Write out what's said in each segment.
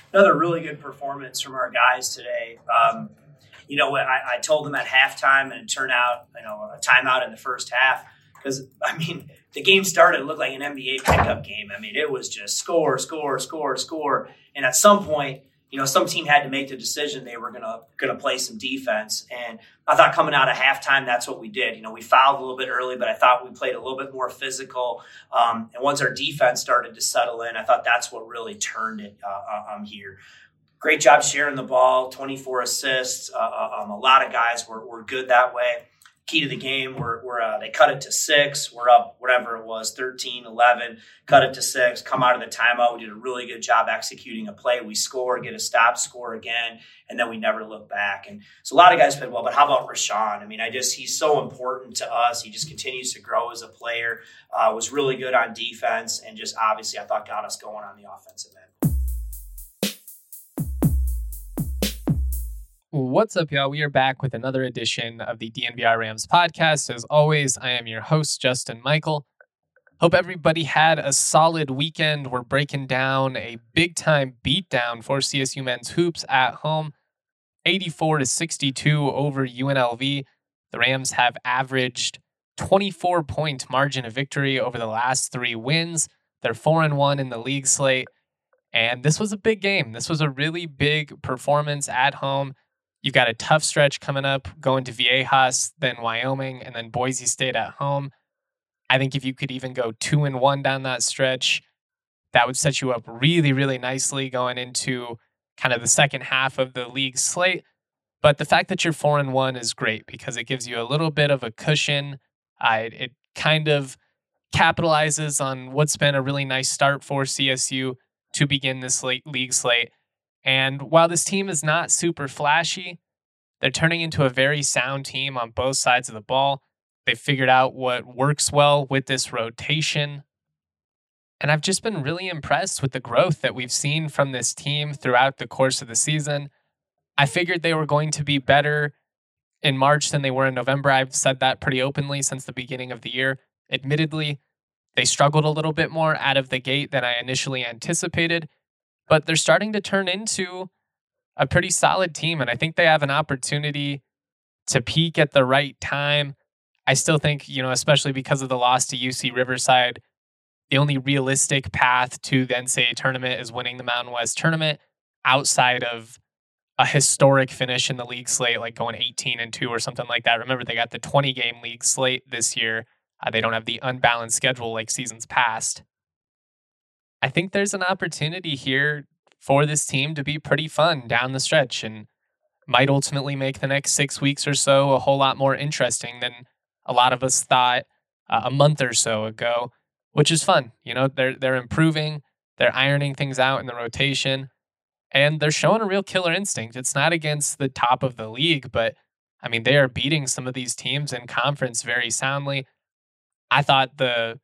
Another really good performance from our guys today. I told them at halftime, and it turned out, a timeout in the first half. Because, the game started, it looked like an NBA pickup game. It was just score, score, score, score. And at some point, some team had to make the decision they were gonna play some defense. And I thought coming out of halftime, that's what we did. We fouled a little bit early, but I thought we played a little bit more physical. And once our defense started to settle in, I thought that's what really turned it here. Great job sharing the ball, 24 assists. A lot of guys were good that way. Key to the game, they cut it to 6. We're up, whatever it was, 13, 11, cut it to 6, come out of the timeout. We did a really good job executing a play. We score, get a stop, score again, and then we never look back. And so a lot of guys played well, but how about Rashawn? He's so important to us. He just continues to grow as a player, was really good on defense, and just obviously I thought got us going on the offensive end. What's up, y'all? We are back with another edition of the DNVR Rams podcast. As always, I am your host, Justin Michael. Hope everybody had a solid weekend. We're breaking down a big-time beatdown for CSU men's hoops at home, 84-62 over UNLV. The Rams have averaged 24-point margin of victory over the last 3 wins. They're 4-1 in the league slate, and this was a big game. This was a really big performance at home. You've got a tough stretch coming up, going to Viejas, then Wyoming, and then Boise State at home. I think if you could even go 2-1 down that stretch, that would set you up really, really nicely going into kind of the second half of the league slate. But the fact that you're 4-1 is great because it gives you a little bit of a cushion. It kind of capitalizes on what's been a really nice start for CSU to begin this league slate. And while this team is not super flashy, they're turning into a very sound team on both sides of the ball. They've figured out what works well with this rotation. And I've just been really impressed with the growth that we've seen from this team throughout the course of the season. I figured they were going to be better in March than they were in November. I've said that pretty openly since the beginning of the year. Admittedly, they struggled a little bit more out of the gate than I initially anticipated. But they're starting to turn into a pretty solid team, and I think they have an opportunity to peak at the right time. I still think, especially because of the loss to UC Riverside, the only realistic path to the NCAA tournament is winning the Mountain West tournament outside of a historic finish in the league slate, like going 18-2 or something like that. Remember, they got the 20-game league slate this year. They don't have the unbalanced schedule like seasons past. I think there's an opportunity here for this team to be pretty fun down the stretch and might ultimately make the next 6 weeks or so a whole lot more interesting than a lot of us thought a month or so ago, which is fun. They're improving, they're ironing things out in the rotation, and they're showing a real killer instinct. It's not against the top of the league, but they are beating some of these teams in conference very soundly. I thought the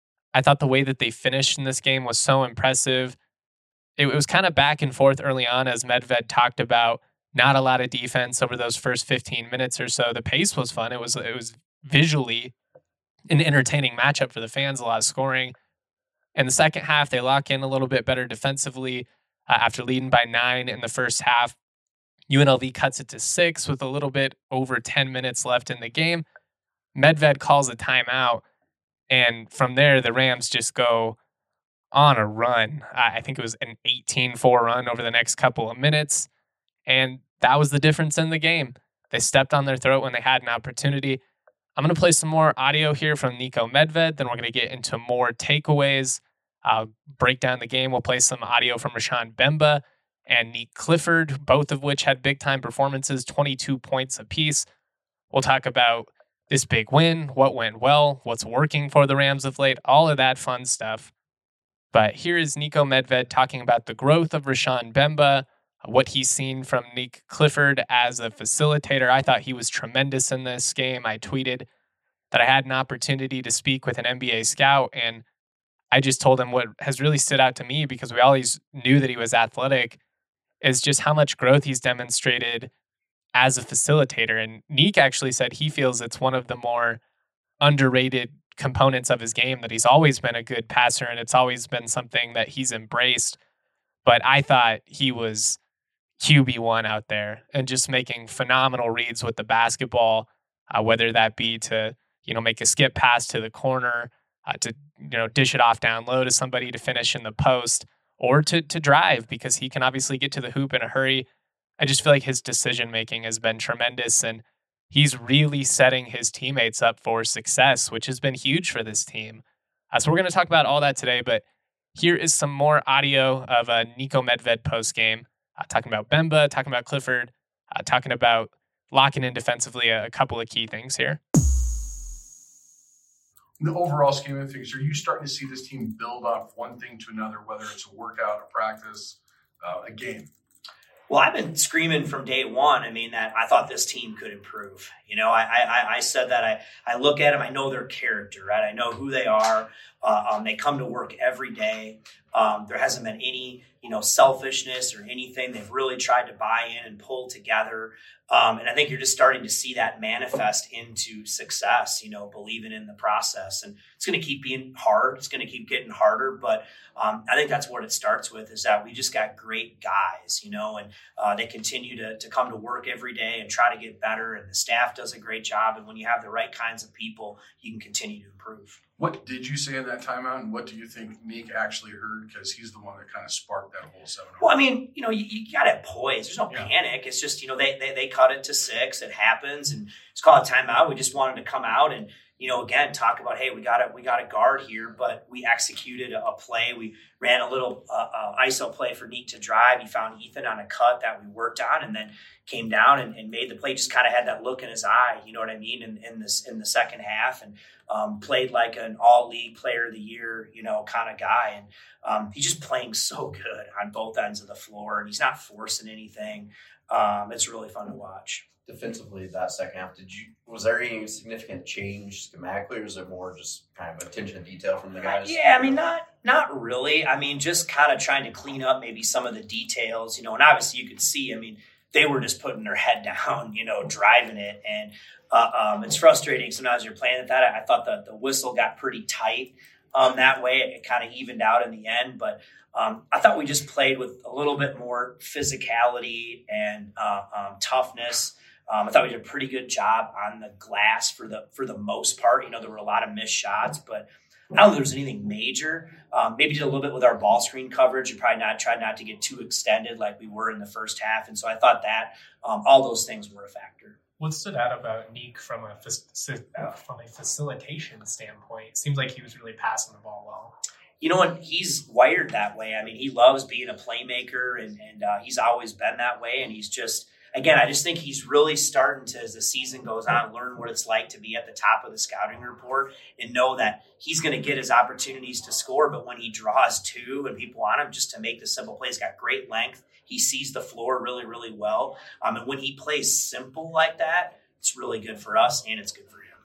way that they finished in this game was so impressive. It was kind of back and forth early on, as Medved talked about. Not a lot of defense over those first 15 minutes or so. The pace was fun. It was visually an entertaining matchup for the fans, a lot of scoring. In the second half, they lock in a little bit better defensively after leading by 9 in the first half. UNLV cuts it to 6 with a little bit over 10 minutes left in the game. Medved calls a timeout. And from there, the Rams just go on a run. I think it was an 18-4 run over the next couple of minutes. And that was the difference in the game. They stepped on their throat when they had an opportunity. I'm going to play some more audio here from Niko Medved. Then we're going to get into more takeaways. I'll break down the game. We'll play some audio from Rashawn Bemba and Nique Clifford, both of which had big-time performances, 22 points apiece. We'll talk about this big win, what went well, what's working for the Rams of late, all of that fun stuff. But here is Niko Medved talking about the growth of Rashawn Bemba, what he's seen from Nique Clifford as a facilitator. I thought he was tremendous in this game. I tweeted that I had an opportunity to speak with an NBA scout, and I just told him what has really stood out to me, because we always knew that he was athletic, is just how much growth he's demonstrated as a facilitator. And Nique actually said he feels it's one of the more underrated components of his game, that he's always been a good passer and it's always been something that he's embraced. but I thought he was QB1 out there and just making phenomenal reads with the basketball, whether that be to, make a skip pass to the corner, to, dish it off down low to somebody to finish in the post, or to drive, because he can obviously get to the hoop in a hurry. I just feel like his decision making has been tremendous, and he's really setting his teammates up for success, which has been huge for this team. So we're going to talk about all that today, but here is some more audio of Niko Medved post-game, talking about Bemba, talking about Clifford, talking about locking in defensively, a couple of key things here. In the overall scheme of things, are you starting to see this team build off one thing to another, whether it's a workout, a practice, a game? Well, I've been screaming from day one. I mean, that I thought this team could improve. I said that I look at them. I know their character, right? I know who they are. They come to work every day. There hasn't been any, selfishness or anything. They've really tried to buy in and pull together. And I think you're just starting to see that manifest into success, believing in the process. And it's going to keep being hard. It's going to keep getting harder. But I think that's what it starts with, is that we just got great guys, and they continue to come to work every day and try to get better. And the staff does a great job. And when you have the right kinds of people, you can continue to improve. What did you say in that timeout, and what do you think Nick actually heard? Because he's the one that kind of sparked that whole 7. Well, I mean, you got to have poise. There's no panic. It's just, they cut it to 6. It happens, and it's called a timeout. We just wanted to come out and, again, talk about, hey, we got a guard here, but we executed a play. We ran a little ISO play for Nick to drive. He found Ethan on a cut that we worked on, and then came down and made the play. Just kind of had that look in his eye, you know what I mean, in the second half, and played like an all-league player of the year, kind of guy. And he's just playing so good on both ends of the floor, and he's not forcing anything. It's really fun to watch. Defensively, that second half, was there any significant change schematically, or is it more just kind of attention to detail from the guys? Yeah, I mean, not really. I mean, just kind of trying to clean up maybe some of the details, and obviously you could see, I mean, they were just putting their head down, driving it. And it's frustrating sometimes you're playing at that. I thought the whistle got pretty tight that way. It kind of evened out in the end. But I thought we just played with a little bit more physicality and toughness. I thought we did a pretty good job on the glass for the most part. There were a lot of missed shots, but I don't think there was anything major. Maybe did a little bit with our ball screen coverage. We probably tried not to get too extended like we were in the first half. And so I thought that all those things were a factor. What stood out about Nick from a facilitation standpoint? It seems like he was really passing the ball well. And he's wired that way. I mean, he loves being a playmaker, and he's always been that way. And he's just, again, I just think he's really starting to, as the season goes on, learn what it's like to be at the top of the scouting report and know that he's going to get his opportunities to score. But when he draws 2 and people want him just to make the simple plays, got great length. He sees the floor really, really well. And when he plays simple like that, it's really good for us and it's good for him.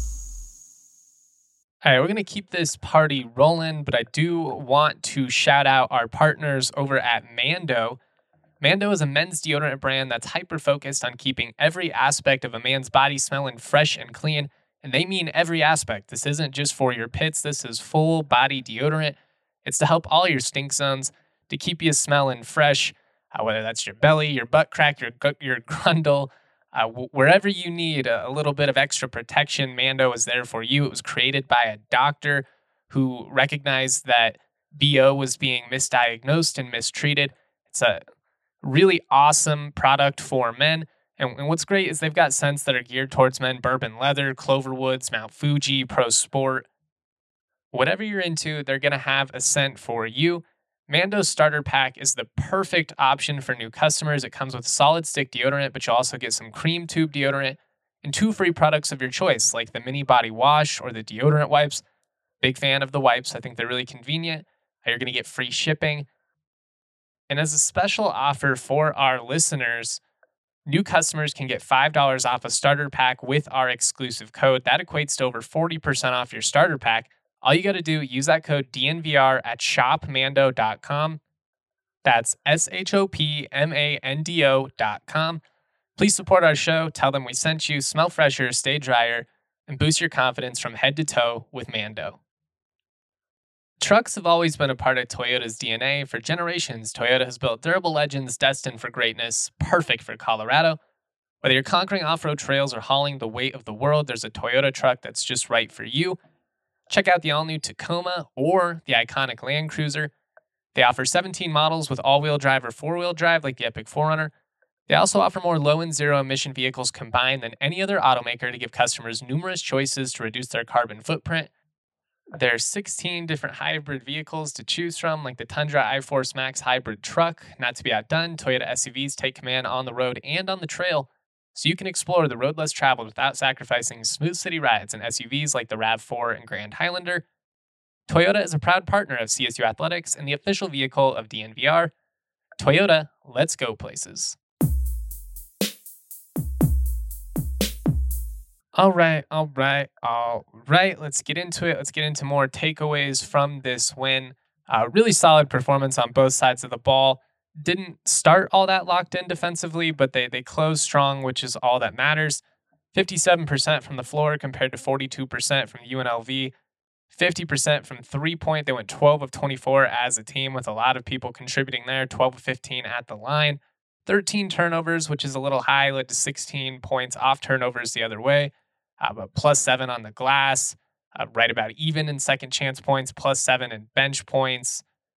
All right, we're going to keep this party rolling, but I do want to shout out our partners over at Mando. Mando is a men's deodorant brand that's hyper-focused on keeping every aspect of a man's body smelling fresh and clean, and they mean every aspect. This isn't just for your pits. This is full body deodorant. It's to help all your stink zones, to keep you smelling fresh, whether that's your belly, your butt crack, your grundle, wherever you need a little bit of extra protection, Mando is there for you. It was created by a doctor who recognized that BO was being misdiagnosed and mistreated. It's a really awesome product for men. And what's great is they've got scents that are geared towards men: bourbon leather, Cloverwoods, Mount Fuji, Pro Sport. Whatever you're into, they're going to have a scent for you. Mando's starter pack is the perfect option for new customers. It comes with solid stick deodorant, but you'll also get some cream tube deodorant and 2 free products of your choice, like the mini body wash or the deodorant wipes. Big fan of the wipes. I think they're really convenient. You're going to get free shipping. And as a special offer for our listeners, new customers can get $5 off a starter pack with our exclusive code. That equates to over 40% off your starter pack. All you got to do, use that code DNVR at shopmando.com. That's shopmando.com. Please support our show. Tell them we sent you. Smell fresher, stay drier, and boost your confidence from head to toe with Mando. Trucks have always been a part of Toyota's DNA. For generations, Toyota has built durable legends destined for greatness, perfect for Colorado. Whether you're conquering off-road trails or hauling the weight of the world, there's a Toyota truck that's just right for you. Check out the all-new Tacoma or the iconic Land Cruiser. They offer 17 models with all-wheel drive or four-wheel drive like the Epic 4Runner. They also offer more low and zero-emission vehicles combined than any other automaker to give customers numerous choices to reduce their carbon footprint. There are 16 different hybrid vehicles to choose from, like the Tundra iForce Max hybrid truck. Not to be outdone, Toyota SUVs take command on the road and on the trail, so you can explore the road less traveled without sacrificing smooth city rides in SUVs like the RAV4 and Grand Highlander. Toyota is a proud partner of CSU Athletics and the official vehicle of DNVR. Toyota, let's go places. All right. Let's get into it. Let's get into more takeaways from this win. Really solid performance on both sides of the ball. Didn't start all that locked in defensively, but they closed strong, which is all that matters. 57% from the floor compared to 42% from UNLV. 50% from three-point. They went 12 of 24 as a team with a lot of people contributing there. 12 of 15 at the line. 13 turnovers, which is a little high, led to 16 points off turnovers the other way. But +7 on the glass, right about even in second chance points, +7 in bench points.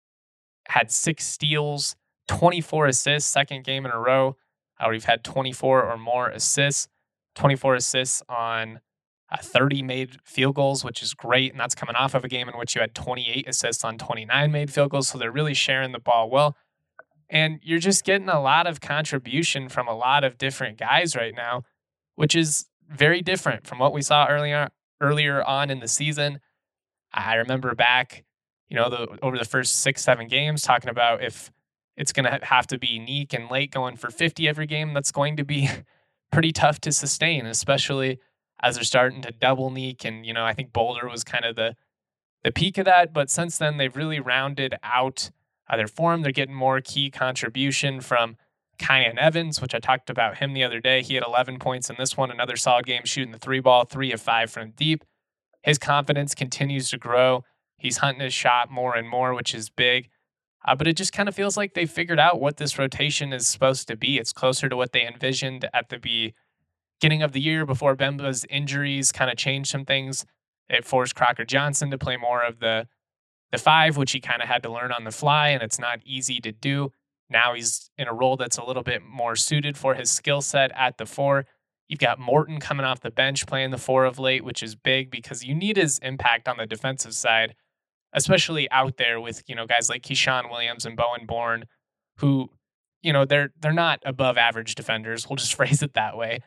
Had 6 steals, 24 assists, second game in a row. We've had 24 or more assists, 24 assists on 30 made field goals, which is great. And that's coming off of a game in which you had 28 assists on 29 made field goals. So they're really sharing the ball well. And you're just getting a lot of contribution from a lot of different guys right now, which is very different from what we saw earlier on in the season. I remember back, over the first 6-7 games talking about if it's going to have to be Neek and Lake going for 50 every game, that's going to be pretty tough to sustain, especially as they're starting to double Neek. And, I think Boulder was kind of the peak of that. But since then, they've really rounded out their form. They're getting more key contribution from Kyan Evans, which I talked about him the other day. He had 11 points in this one, another solid game shooting the 3-ball, 3 of 5 from deep. His confidence continues to grow. He's hunting his shot more and more, which is big. But it just kind of feels like they figured out what this rotation is supposed to be. It's closer to what they envisioned at the beginning of the year before Bemba's injuries kind of changed some things. It forced Crocker Johnson to play more of the 5, which he kind of had to learn on the fly, and it's not easy to do. Now he's in a role that's a little bit more suited for his skill set at the 4. You've got Morton coming off the bench playing the 4 of late, which is big because you need his impact on the defensive side, especially out there with, guys like Keyshawn Williams and Bowen Bourne, who, they're not above average defenders. We'll just phrase it that way.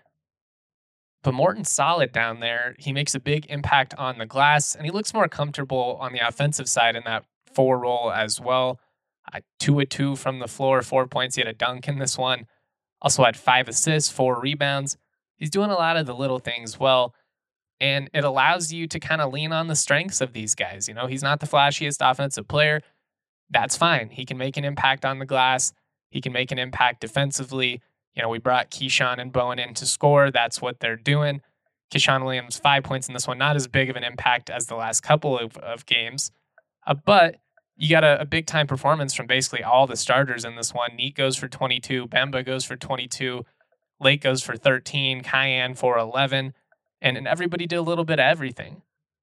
But Morton's solid down there. He makes a big impact on the glass, and he looks more comfortable on the offensive side in that 4 role as well. 2 of 2 from the floor, 4 points. He had a dunk in this one. Also had 5 assists, 4 rebounds. He's doing a lot of the little things well, and it allows you to kind of lean on the strengths of these guys. He's not the flashiest offensive player. That's fine. He can make an impact on the glass. He can make an impact defensively. We brought Keyshawn and Bowen in to score. That's what they're doing. Keyshawn Williams, 5 points in this one. Not as big of an impact as the last couple of games. But you got a big-time performance from basically all the starters in this one. Neek goes for 22. Bemba goes for 22. Lake goes for 13. Kyan for 11. And everybody did a little bit of everything.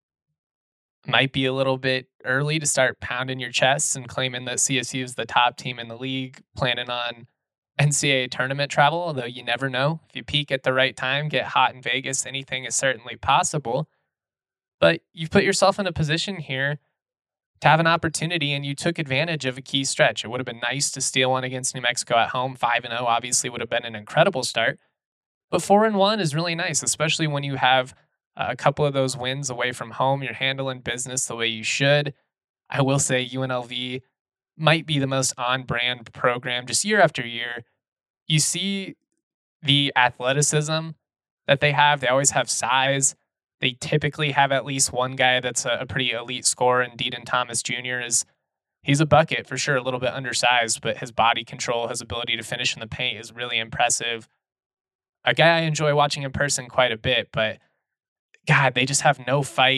Might be a little bit early to start pounding your chests and claiming that CSU is the top team in the league, planning on NCAA tournament travel, although you never know. If you peak at the right time, get hot in Vegas, anything is certainly possible. But you've put yourself in a position here to have an opportunity, and you took advantage of a key stretch. It would have been nice to steal one against New Mexico at home. 5-0 obviously would have been an incredible start. But 4-1 is really nice, especially when you have a couple of those wins away from home. You're handling business the way you should. I will say UNLV might be the most on-brand program just year after year. You see the athleticism that they have. They always have size. They typically have at least one guy that's a pretty elite scorer, and Deaton Thomas Jr. He's a bucket for sure, a little bit undersized, but his body control, his ability to finish in the paint is really impressive. A guy I enjoy watching in person quite a bit, but God, they just have no fight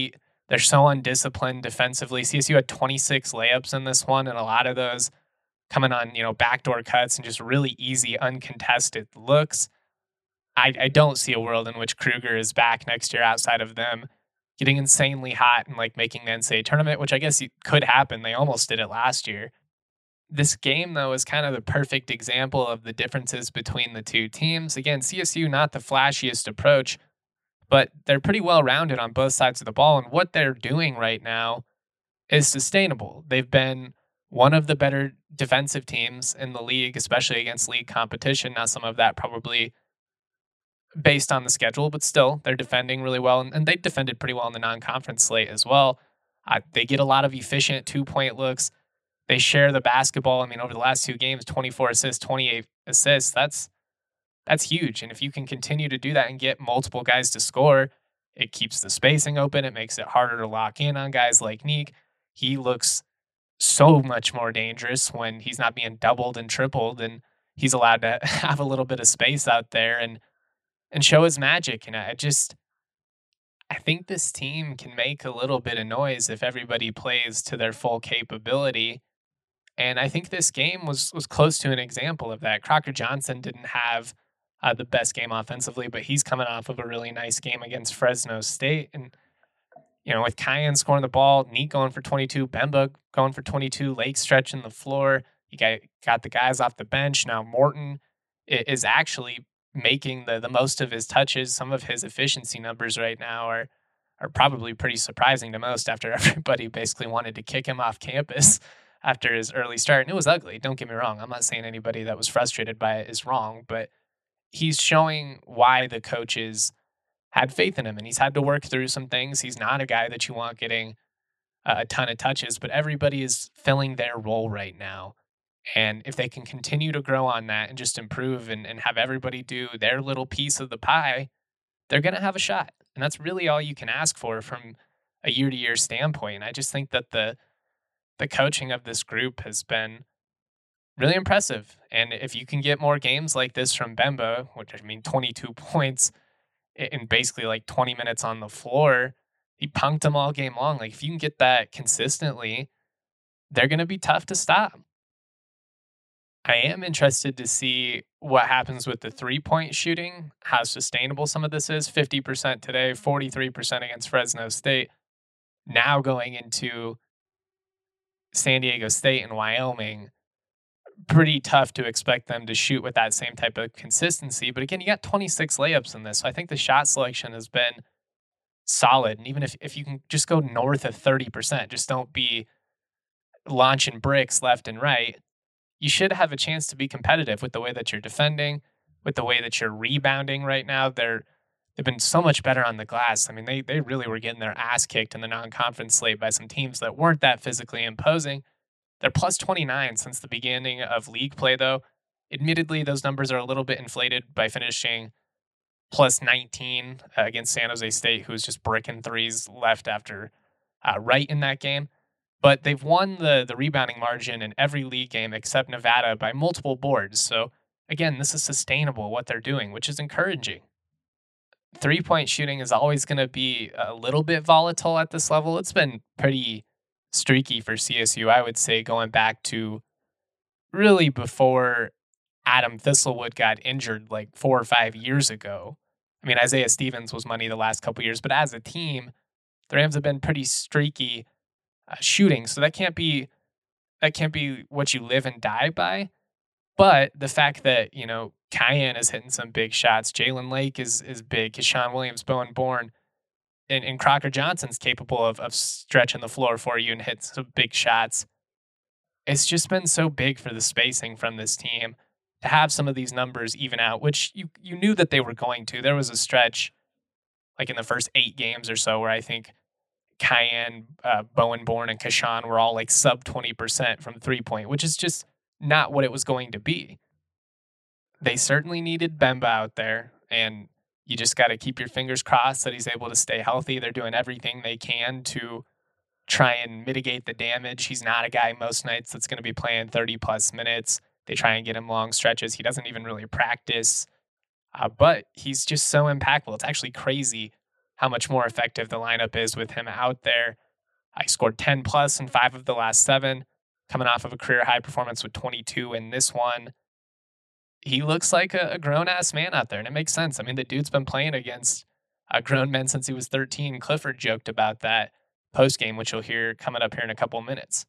They're so undisciplined defensively. CSU had 26 layups in this one, and a lot of those coming on, backdoor cuts and just really easy, uncontested looks. I don't see a world in which Kruger is back next year outside of them getting insanely hot and like making the NCAA tournament, which I guess could happen. They almost did it last year. This game, though, is kind of the perfect example of the differences between the two teams. Again, CSU, not the flashiest approach, but they're pretty well rounded on both sides of the ball. And what they're doing right now is sustainable. They've been one of the better defensive teams in the league, especially against league competition. Now, some of that probably based on the schedule, but still, they're defending really well. And they defended pretty well in the non-conference slate as well. They get a lot of efficient 2-point looks. They share the basketball. I mean, over the last 2 games, 24 assists, 28 assists. That's huge. And if you can continue to do that and get multiple guys to score, it keeps the spacing open. It makes it harder to lock in on guys like Neek. He looks so much more dangerous when he's not being doubled and tripled, and he's allowed to have a little bit of space out there and show his magic. And I think this team can make a little bit of noise if everybody plays to their full capability. And I think this game was close to an example of that. Crocker Johnson didn't have the best game offensively, but he's coming off of a really nice game against Fresno State. And, with Kyan scoring the ball, Neek going for 22, Bemba going for 22, Lake stretching the floor. You got the guys off the bench. Now Morton is actually making the most of his touches. Some of his efficiency numbers right now are probably pretty surprising to most after everybody basically wanted to kick him off campus after his early start. And it was ugly. Don't get me wrong. I'm not saying anybody that was frustrated by it is wrong, but he's showing why the coaches had faith in him, and he's had to work through some things. He's not a guy that you want getting a ton of touches, but everybody is filling their role right now. And if they can continue to grow on that and just improve and have everybody do their little piece of the pie, they're going to have a shot. And that's really all you can ask for from a year-to-year standpoint. I just think that the coaching of this group has been really impressive. And if you can get more games like this from Bemba, which 22 points in basically like 20 minutes on the floor, he punked them all game long. Like if you can get that consistently, they're going to be tough to stop. I am interested to see what happens with the 3-point shooting, how sustainable some of this is. 50% today, 43% against Fresno State. Now going into San Diego State and Wyoming, pretty tough to expect them to shoot with that same type of consistency. But again, you got 26 layups in this. So I think the shot selection has been solid. And even if you can just go north of 30%, just don't be launching bricks left and right, you should have a chance to be competitive with the way that you're defending, with the way that you're rebounding right now. They've been so much better on the glass. I mean, they really were getting their ass kicked in the non-conference slate by some teams that weren't that physically imposing. They're plus 29 since the beginning of league play, though. Admittedly, those numbers are a little bit inflated by finishing plus 19 against San Jose State, who was just bricking threes left after right in that game. But they've won the rebounding margin in every league game except Nevada by multiple boards. So, again, this is sustainable, what they're doing, which is encouraging. 3-point shooting is always going to be a little bit volatile at this level. It's been pretty streaky for CSU, I would say, going back to really before Adam Thistlewood got injured like 4 or 5 years ago. I mean, Isaiah Stevens was money the last couple years, but as a team, the Rams have been pretty streaky shooting. So that can't be what you live and die by. But the fact that, Kyan is hitting some big shots, Jalen Lake is big, Keshawn Williams, Bowen Bourne, and Crocker Johnson's capable of stretching the floor for you and hitting some big shots. It's just been so big for the spacing from this team to have some of these numbers even out, which you knew that they were going to. There was a stretch like in the first 8 games or so where I think Kyan, Bowen Bourne, and Keshawn were all like sub 20% from 3-point, which is just not what it was going to be. They certainly needed Bemba out there, and you just got to keep your fingers crossed that he's able to stay healthy. They're doing everything they can to try and mitigate the damage. He's not a guy most nights that's going to be playing 30-plus minutes. They try and get him long stretches. He doesn't even really practice, but he's just so impactful. It's actually crazy how much more effective the lineup is with him out there. I scored 10 plus in 5 of the last 7, coming off of a career high performance with 22 in this one. He looks like a grown-ass man out there, and it makes sense. I mean, the dude's been playing against grown men since he was 13. Clifford joked about that post-game, which you'll hear coming up here in a couple minutes.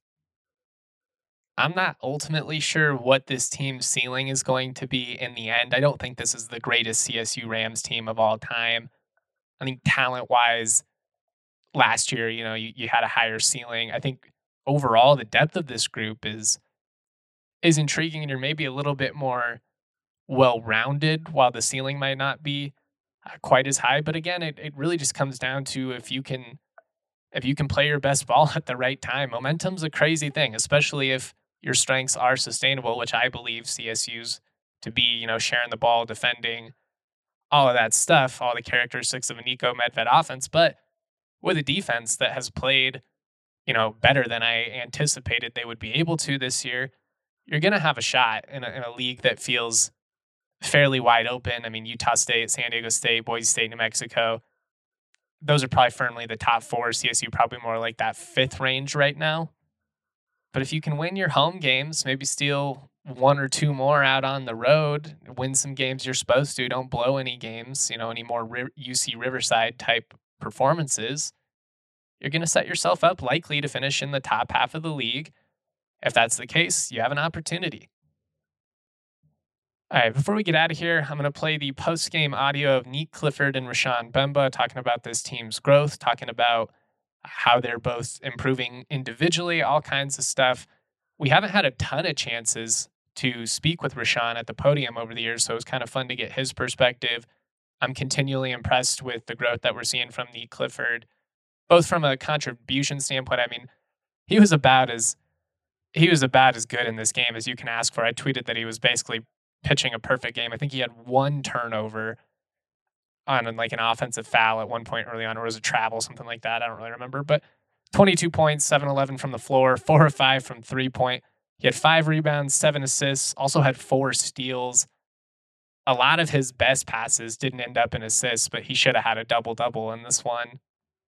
I'm not ultimately sure what this team's ceiling is going to be in the end. I don't think this is the greatest CSU Rams team of all time. I think talent-wise, last year, you had a higher ceiling. I think overall the depth of this group is intriguing, and you're maybe a little bit more well-rounded, while the ceiling might not be quite as high. But again, it really just comes down to if you can play your best ball at the right time. Momentum's a crazy thing, especially if your strengths are sustainable, which I believe CSU's to be, sharing the ball, defending, all of that stuff, all the characteristics of a Nico Medved offense. But with a defense that has played, better than I anticipated they would be able to this year, you're going to have a shot in a league that feels fairly wide open. I mean, Utah State, San Diego State, Boise State, New Mexico, those are probably firmly the top 4. CSU probably more like that 5th range right now. But if you can win your home games, maybe steal 1 or 2 more out on the road, win some games you're supposed to, don't blow any games, any more UC Riverside type performances, you're going to set yourself up likely to finish in the top half of the league. If that's the case, you have an opportunity. All right, before we get out of here, I'm going to play the post-game audio of Nique Clifford and Rashawn Mbemba talking about this team's growth, talking about how they're both improving individually, all kinds of stuff. We haven't had a ton of chances to speak with Rashawn at the podium over the years, so it was kind of fun to get his perspective. I'm continually impressed with the growth that we're seeing from Nique Clifford, both from a contribution standpoint. I mean, he was about as good in this game as you can ask for. I tweeted that he was basically pitching a perfect game. I think he had 1 turnover on an offensive foul at one point early on, or was it travel, something like that. I don't really remember, but 22 points, 7-11 from the floor, 4 of 5 from 3-point. He had 5 rebounds, 7 assists, also had 4 steals. A lot of his best passes didn't end up in assists, but he should have had a double-double in this one.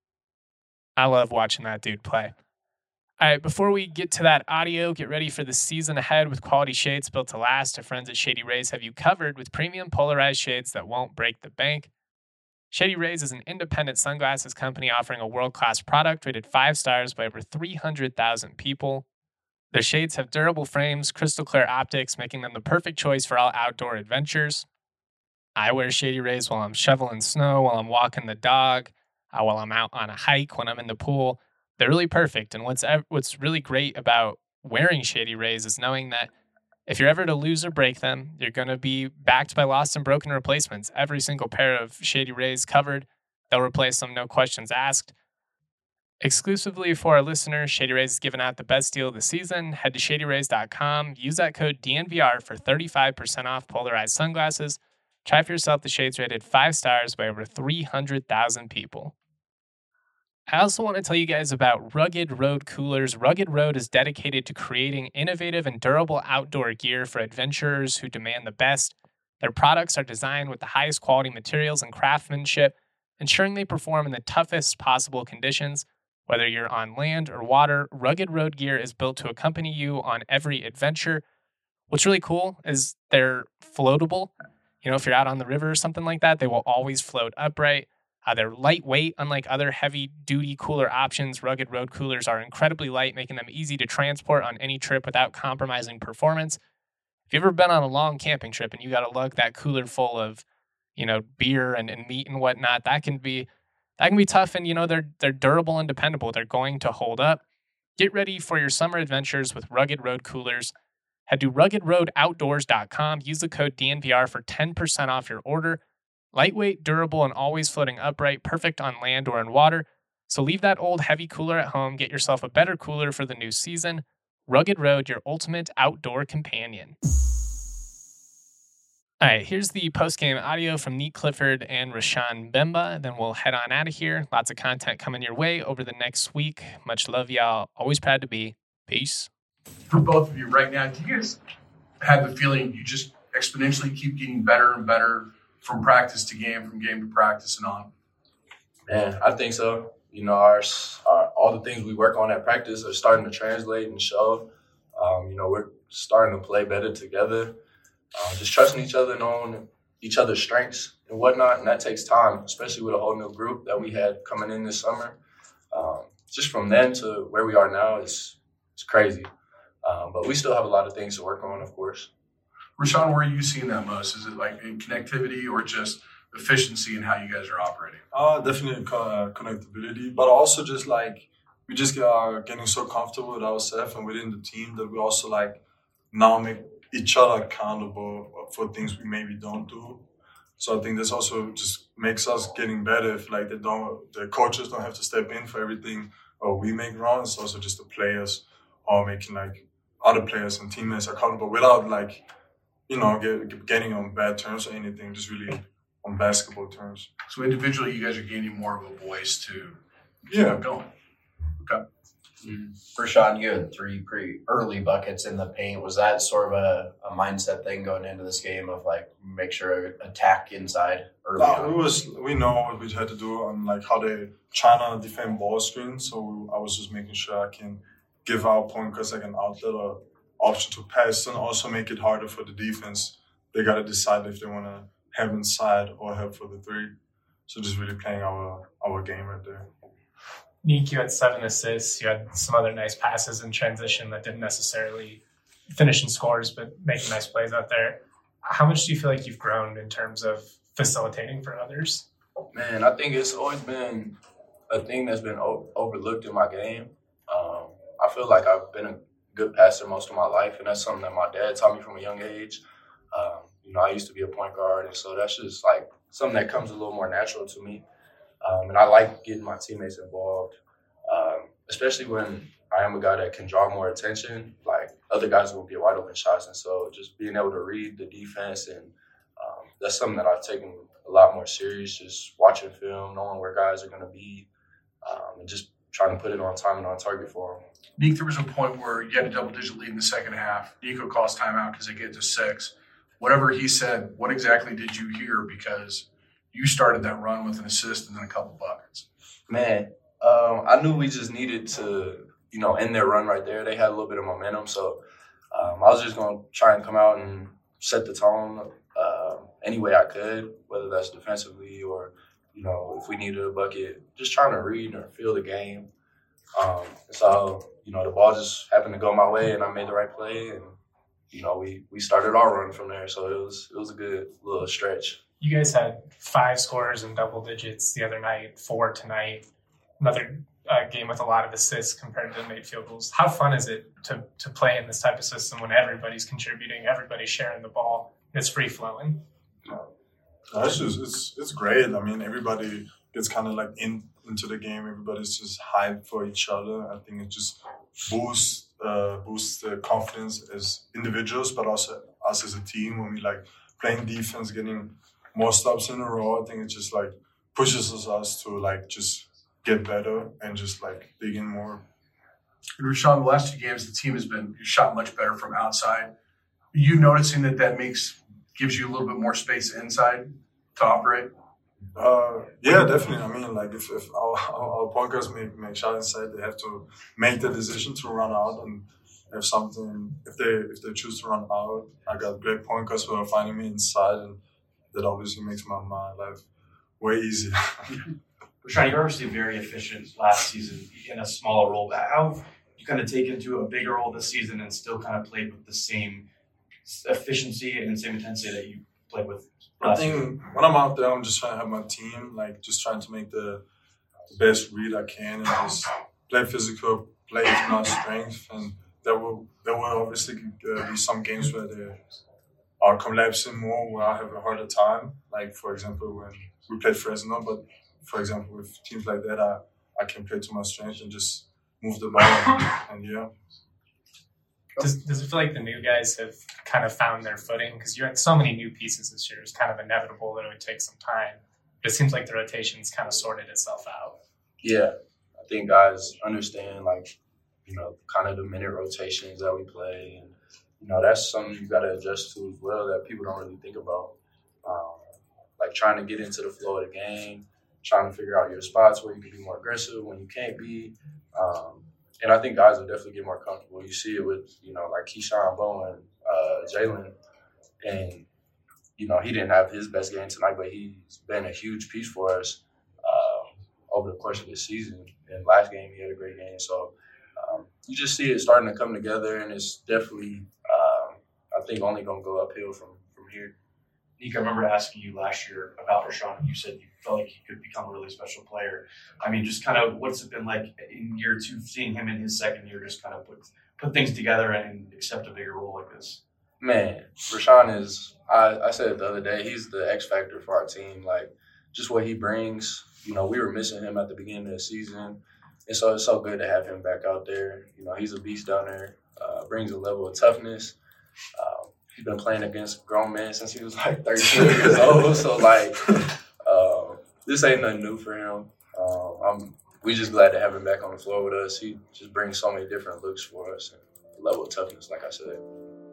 I love watching that dude play. All right, before we get to that audio, get ready for the season ahead with quality shades built to last. Our friends at Shady Rays have you covered with premium polarized shades that won't break the bank. Shady Rays is an independent sunglasses company offering a world-class product rated 5 stars by over 300,000 people. Their shades have durable frames, crystal clear optics, making them the perfect choice for all outdoor adventures. I wear Shady Rays while I'm shoveling snow, while I'm walking the dog, while I'm out on a hike, when I'm in the pool. They're really perfect. And what's really great about wearing Shady Rays is knowing that if you're ever to lose or break them, you're going to be backed by lost and broken replacements. Every single pair of Shady Rays covered, they'll replace them, no questions asked. Exclusively for our listeners, Shady Rays is giving out the best deal of the season. Head to shadyrays.com. Use that code DNVR for 35% off polarized sunglasses. Try for yourself the shades rated 5 stars by over 300,000 people. I also want to tell you guys about Rugged Road Coolers. Rugged Road is dedicated to creating innovative and durable outdoor gear for adventurers who demand the best. Their products are designed with the highest quality materials and craftsmanship, ensuring they perform in the toughest possible conditions. Whether you're on land or water, Rugged Road gear is built to accompany you on every adventure. What's really cool is they're floatable. If you're out on the river or something like that, they will always float upright. They're lightweight, unlike other heavy-duty cooler options. Rugged Road Coolers are incredibly light, making them easy to transport on any trip without compromising performance. If you've ever been on a long camping trip and you got to lug that cooler full of, beer and meat and whatnot, that can be tough. And they're durable and dependable. They're going to hold up. Get ready for your summer adventures with Rugged Road Coolers. Head to ruggedroadoutdoors.com. Use the code DNVR for 10% off your order. Lightweight, durable, and always floating upright, perfect on land or in water. So leave that old heavy cooler at home. Get yourself a better cooler for the new season. Rugged Road, your ultimate outdoor companion. All right, here's the post-game audio from Nique Clifford and Rashawn Mbemba. Then we'll head on out of here. Lots of content coming your way over the next week. Much love, y'all. Always proud to be. Peace. For both of you right now, do you guys have the feeling you just exponentially keep getting better and better from practice to game, from game to practice and on? Man, I think so. You know, all the things we work on at practice are starting to translate and show. You know, we're starting to play better together, just trusting each other, knowing each other's strengths and whatnot. And that takes time, especially with a whole new group that we had coming in this summer. Just from then to where we are now, it's crazy. But we still have a lot of things to work on, of course. Rashawn, where are you seeing that most? Is it like in connectivity or just efficiency in how you guys are operating? Definitely connectability, but also just like we just are getting so comfortable with ourselves and within the team that we also like now make each other accountable for things we maybe don't do. So I think this also just makes us getting better if like the coaches don't have to step in for everything or we make wrong. It's also just the players are making like other players and teammates accountable without like, you know, getting on bad terms or anything, just really on basketball terms. So individually, you guys are gaining more of a voice to keep going. Okay. For Sean, you had 3 pretty early buckets in the paint. Was that sort of a mindset thing going into this game of like make sure attack inside early on? We know what we had to do on like how they trying to defend ball screens. So I was just making sure I can give our point guards like an outlet or option to pass and also make it harder for the defense. They got to decide if they want to have inside or have for the 3. So just really playing our game right there. Nick, you had 7 assists. You had some other nice passes in transition that didn't necessarily finish in scores, but making nice plays out there. How much do you feel like you've grown in terms of facilitating for others? Man, I think it's always been a thing that's been overlooked in my game. I feel like I've been a good passer most of my life, and that's something that my dad taught me from a young age. You know, I used to be a point guard, and so that's just like something that comes a little more natural to me. And I like getting my teammates involved, especially when I am a guy that can draw more attention. Like other guys will get wide open shots, and so just being able to read the defense, and that's something that I've taken a lot more serious. Just watching film, knowing where guys are going to be, and just trying to put it on time and on target for them. Nick, there was a point where you had a double-digit lead in the second half. Nico calls timeout because they get to 6. Whatever he said, what exactly did you hear? Because you started that run with an assist and then a couple buckets. Man, I knew we just needed to, you know, end their run right there. They had a little bit of momentum, so I was just going to try and come out and set the tone any way I could, whether that's defensively or, you know, if we needed a bucket, just trying to read or feel the game. So, you know, the ball just happened to go my way and I made the right play, and, you know, we started our run from there. So it was a good little stretch. You guys had 5 scorers in double digits the other night, 4 tonight. Another game with a lot of assists compared to made field goals. How fun is it to play in this type of system when everybody's contributing, everybody's sharing the ball, it's free flowing? It's great. I mean, everybody gets kind of like into the game. Everybody's just hyped for each other. I think it just boosts the confidence as individuals, but also us as a team when we like playing defense, getting more stops in a row. I think it just like pushes us to like just get better and just like dig in more. And Rashawn, the last 2 games, the team has been shot much better from outside. Are you noticing that gives you a little bit more space inside to operate? Yeah, definitely. I mean, like if our point guards make shots inside, they have to make the decision to run out. And if they choose to run out, I got great point guards who are finding me inside, and that obviously makes my life way easier. Rashawn, you're obviously very efficient last season in a smaller role. How have you kind of taken to a bigger role this season and still kind of played with the same efficiency and same intensity that you played with last I think when I'm out there, I'm just trying to have my team, like just trying to make the best read I can and just play physical, play to my strength. And there will obviously be some games where they are collapsing more, where I have a harder time. Like, for example, when we played Fresno, but for example, with teams like that, I can play to my strength and just move the ball. And yeah. Does it feel like the new guys have kind of found their footing? Because you had so many new pieces this year. It's kind of inevitable that it would take some time. But it seems like the rotation's kind of sorted itself out. Yeah, I think guys understand, like, you know, kind of the minute rotations that we play. And, you know, that's something you got to adjust to as well that people don't really think about. Like trying to get into the flow of the game, trying to figure out your spots where you can be more aggressive, when you can't be. And I think guys will definitely get more comfortable. You see it with, like Keyshawn Bowen, Jalen, and, he didn't have his best game tonight, but he's been a huge piece for us over the course of this season. And last game, he had a great game. So you just see it starting to come together, and it's definitely, I think, only going to go uphill from here. Nick, I remember asking you last year about Rashawn. You said you felt like he could become a really special player. I mean, just kind of what's it been like in year 2, seeing him in his second year just kind of put things together and accept a bigger role like this? Man, Rashawn is, I said it the other day, he's the X factor for our team. Like, just what he brings. We were missing him at the beginning of the season. And so it's so good to have him back out there. He's a beast down there, brings a level of toughness. He's been playing against grown men since he was like 13 years old. So, this ain't nothing new for him. We just glad to have him back on the floor with us. He just brings so many different looks for us and a level of toughness, like I said.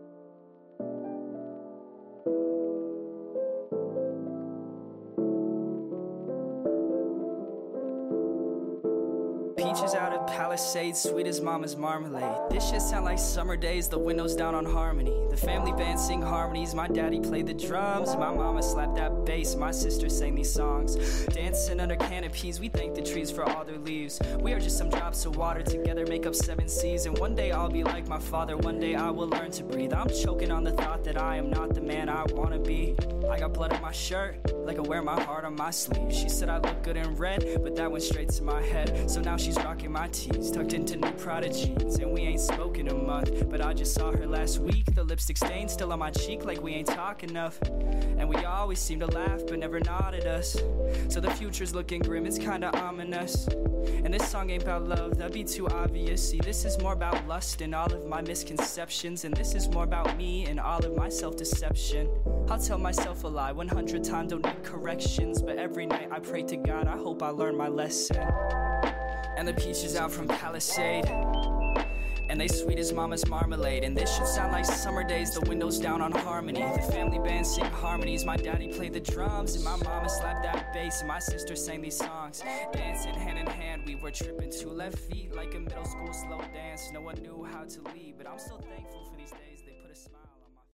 Peaches out of Palisades, sweet as mama's marmalade. This shit sound like summer days, the windows down on Harmony. The family band sing harmonies, my daddy played the drums. My mama slapped that bass, my sister sang these songs. Dancing under canopies, we thank the trees for all their leaves. We are just some drops of water, together make up 7 seas. And one day I'll be like my father, one day I will learn to breathe. I'm choking on the thought that I am not the man I wanna be. I got blood on my shirt, like I wear my heart on my sleeve. She said I look good in red, but that went straight to my head. So now she's rocking my tees, tucked into new Prada jeans. And we ain't spoken a month, but I just saw her last week. The lipstick stain still on my cheek, like we ain't talk enough. And we always seem to laugh, but never nod at us. So the future's looking grim, it's kinda ominous. And this song ain't about love, that'd be too obvious. See, this is more about lust and all of my misconceptions. And this is more about me and all of my self-deception. I'll tell myself a lie 100 times, don't need corrections. But every night I pray to God, I hope I learn my lesson. And the peaches out from Palisade, and they sweet as mama's marmalade. And this should sound like summer days, the windows down on Harmony. The family band sing harmonies, my daddy played the drums. And my mama slapped that bass, and my sister sang these songs. Dancing hand in hand, we were tripping 2 left feet like a middle school slow dance. No one knew how to lead, but I'm still thankful for these days.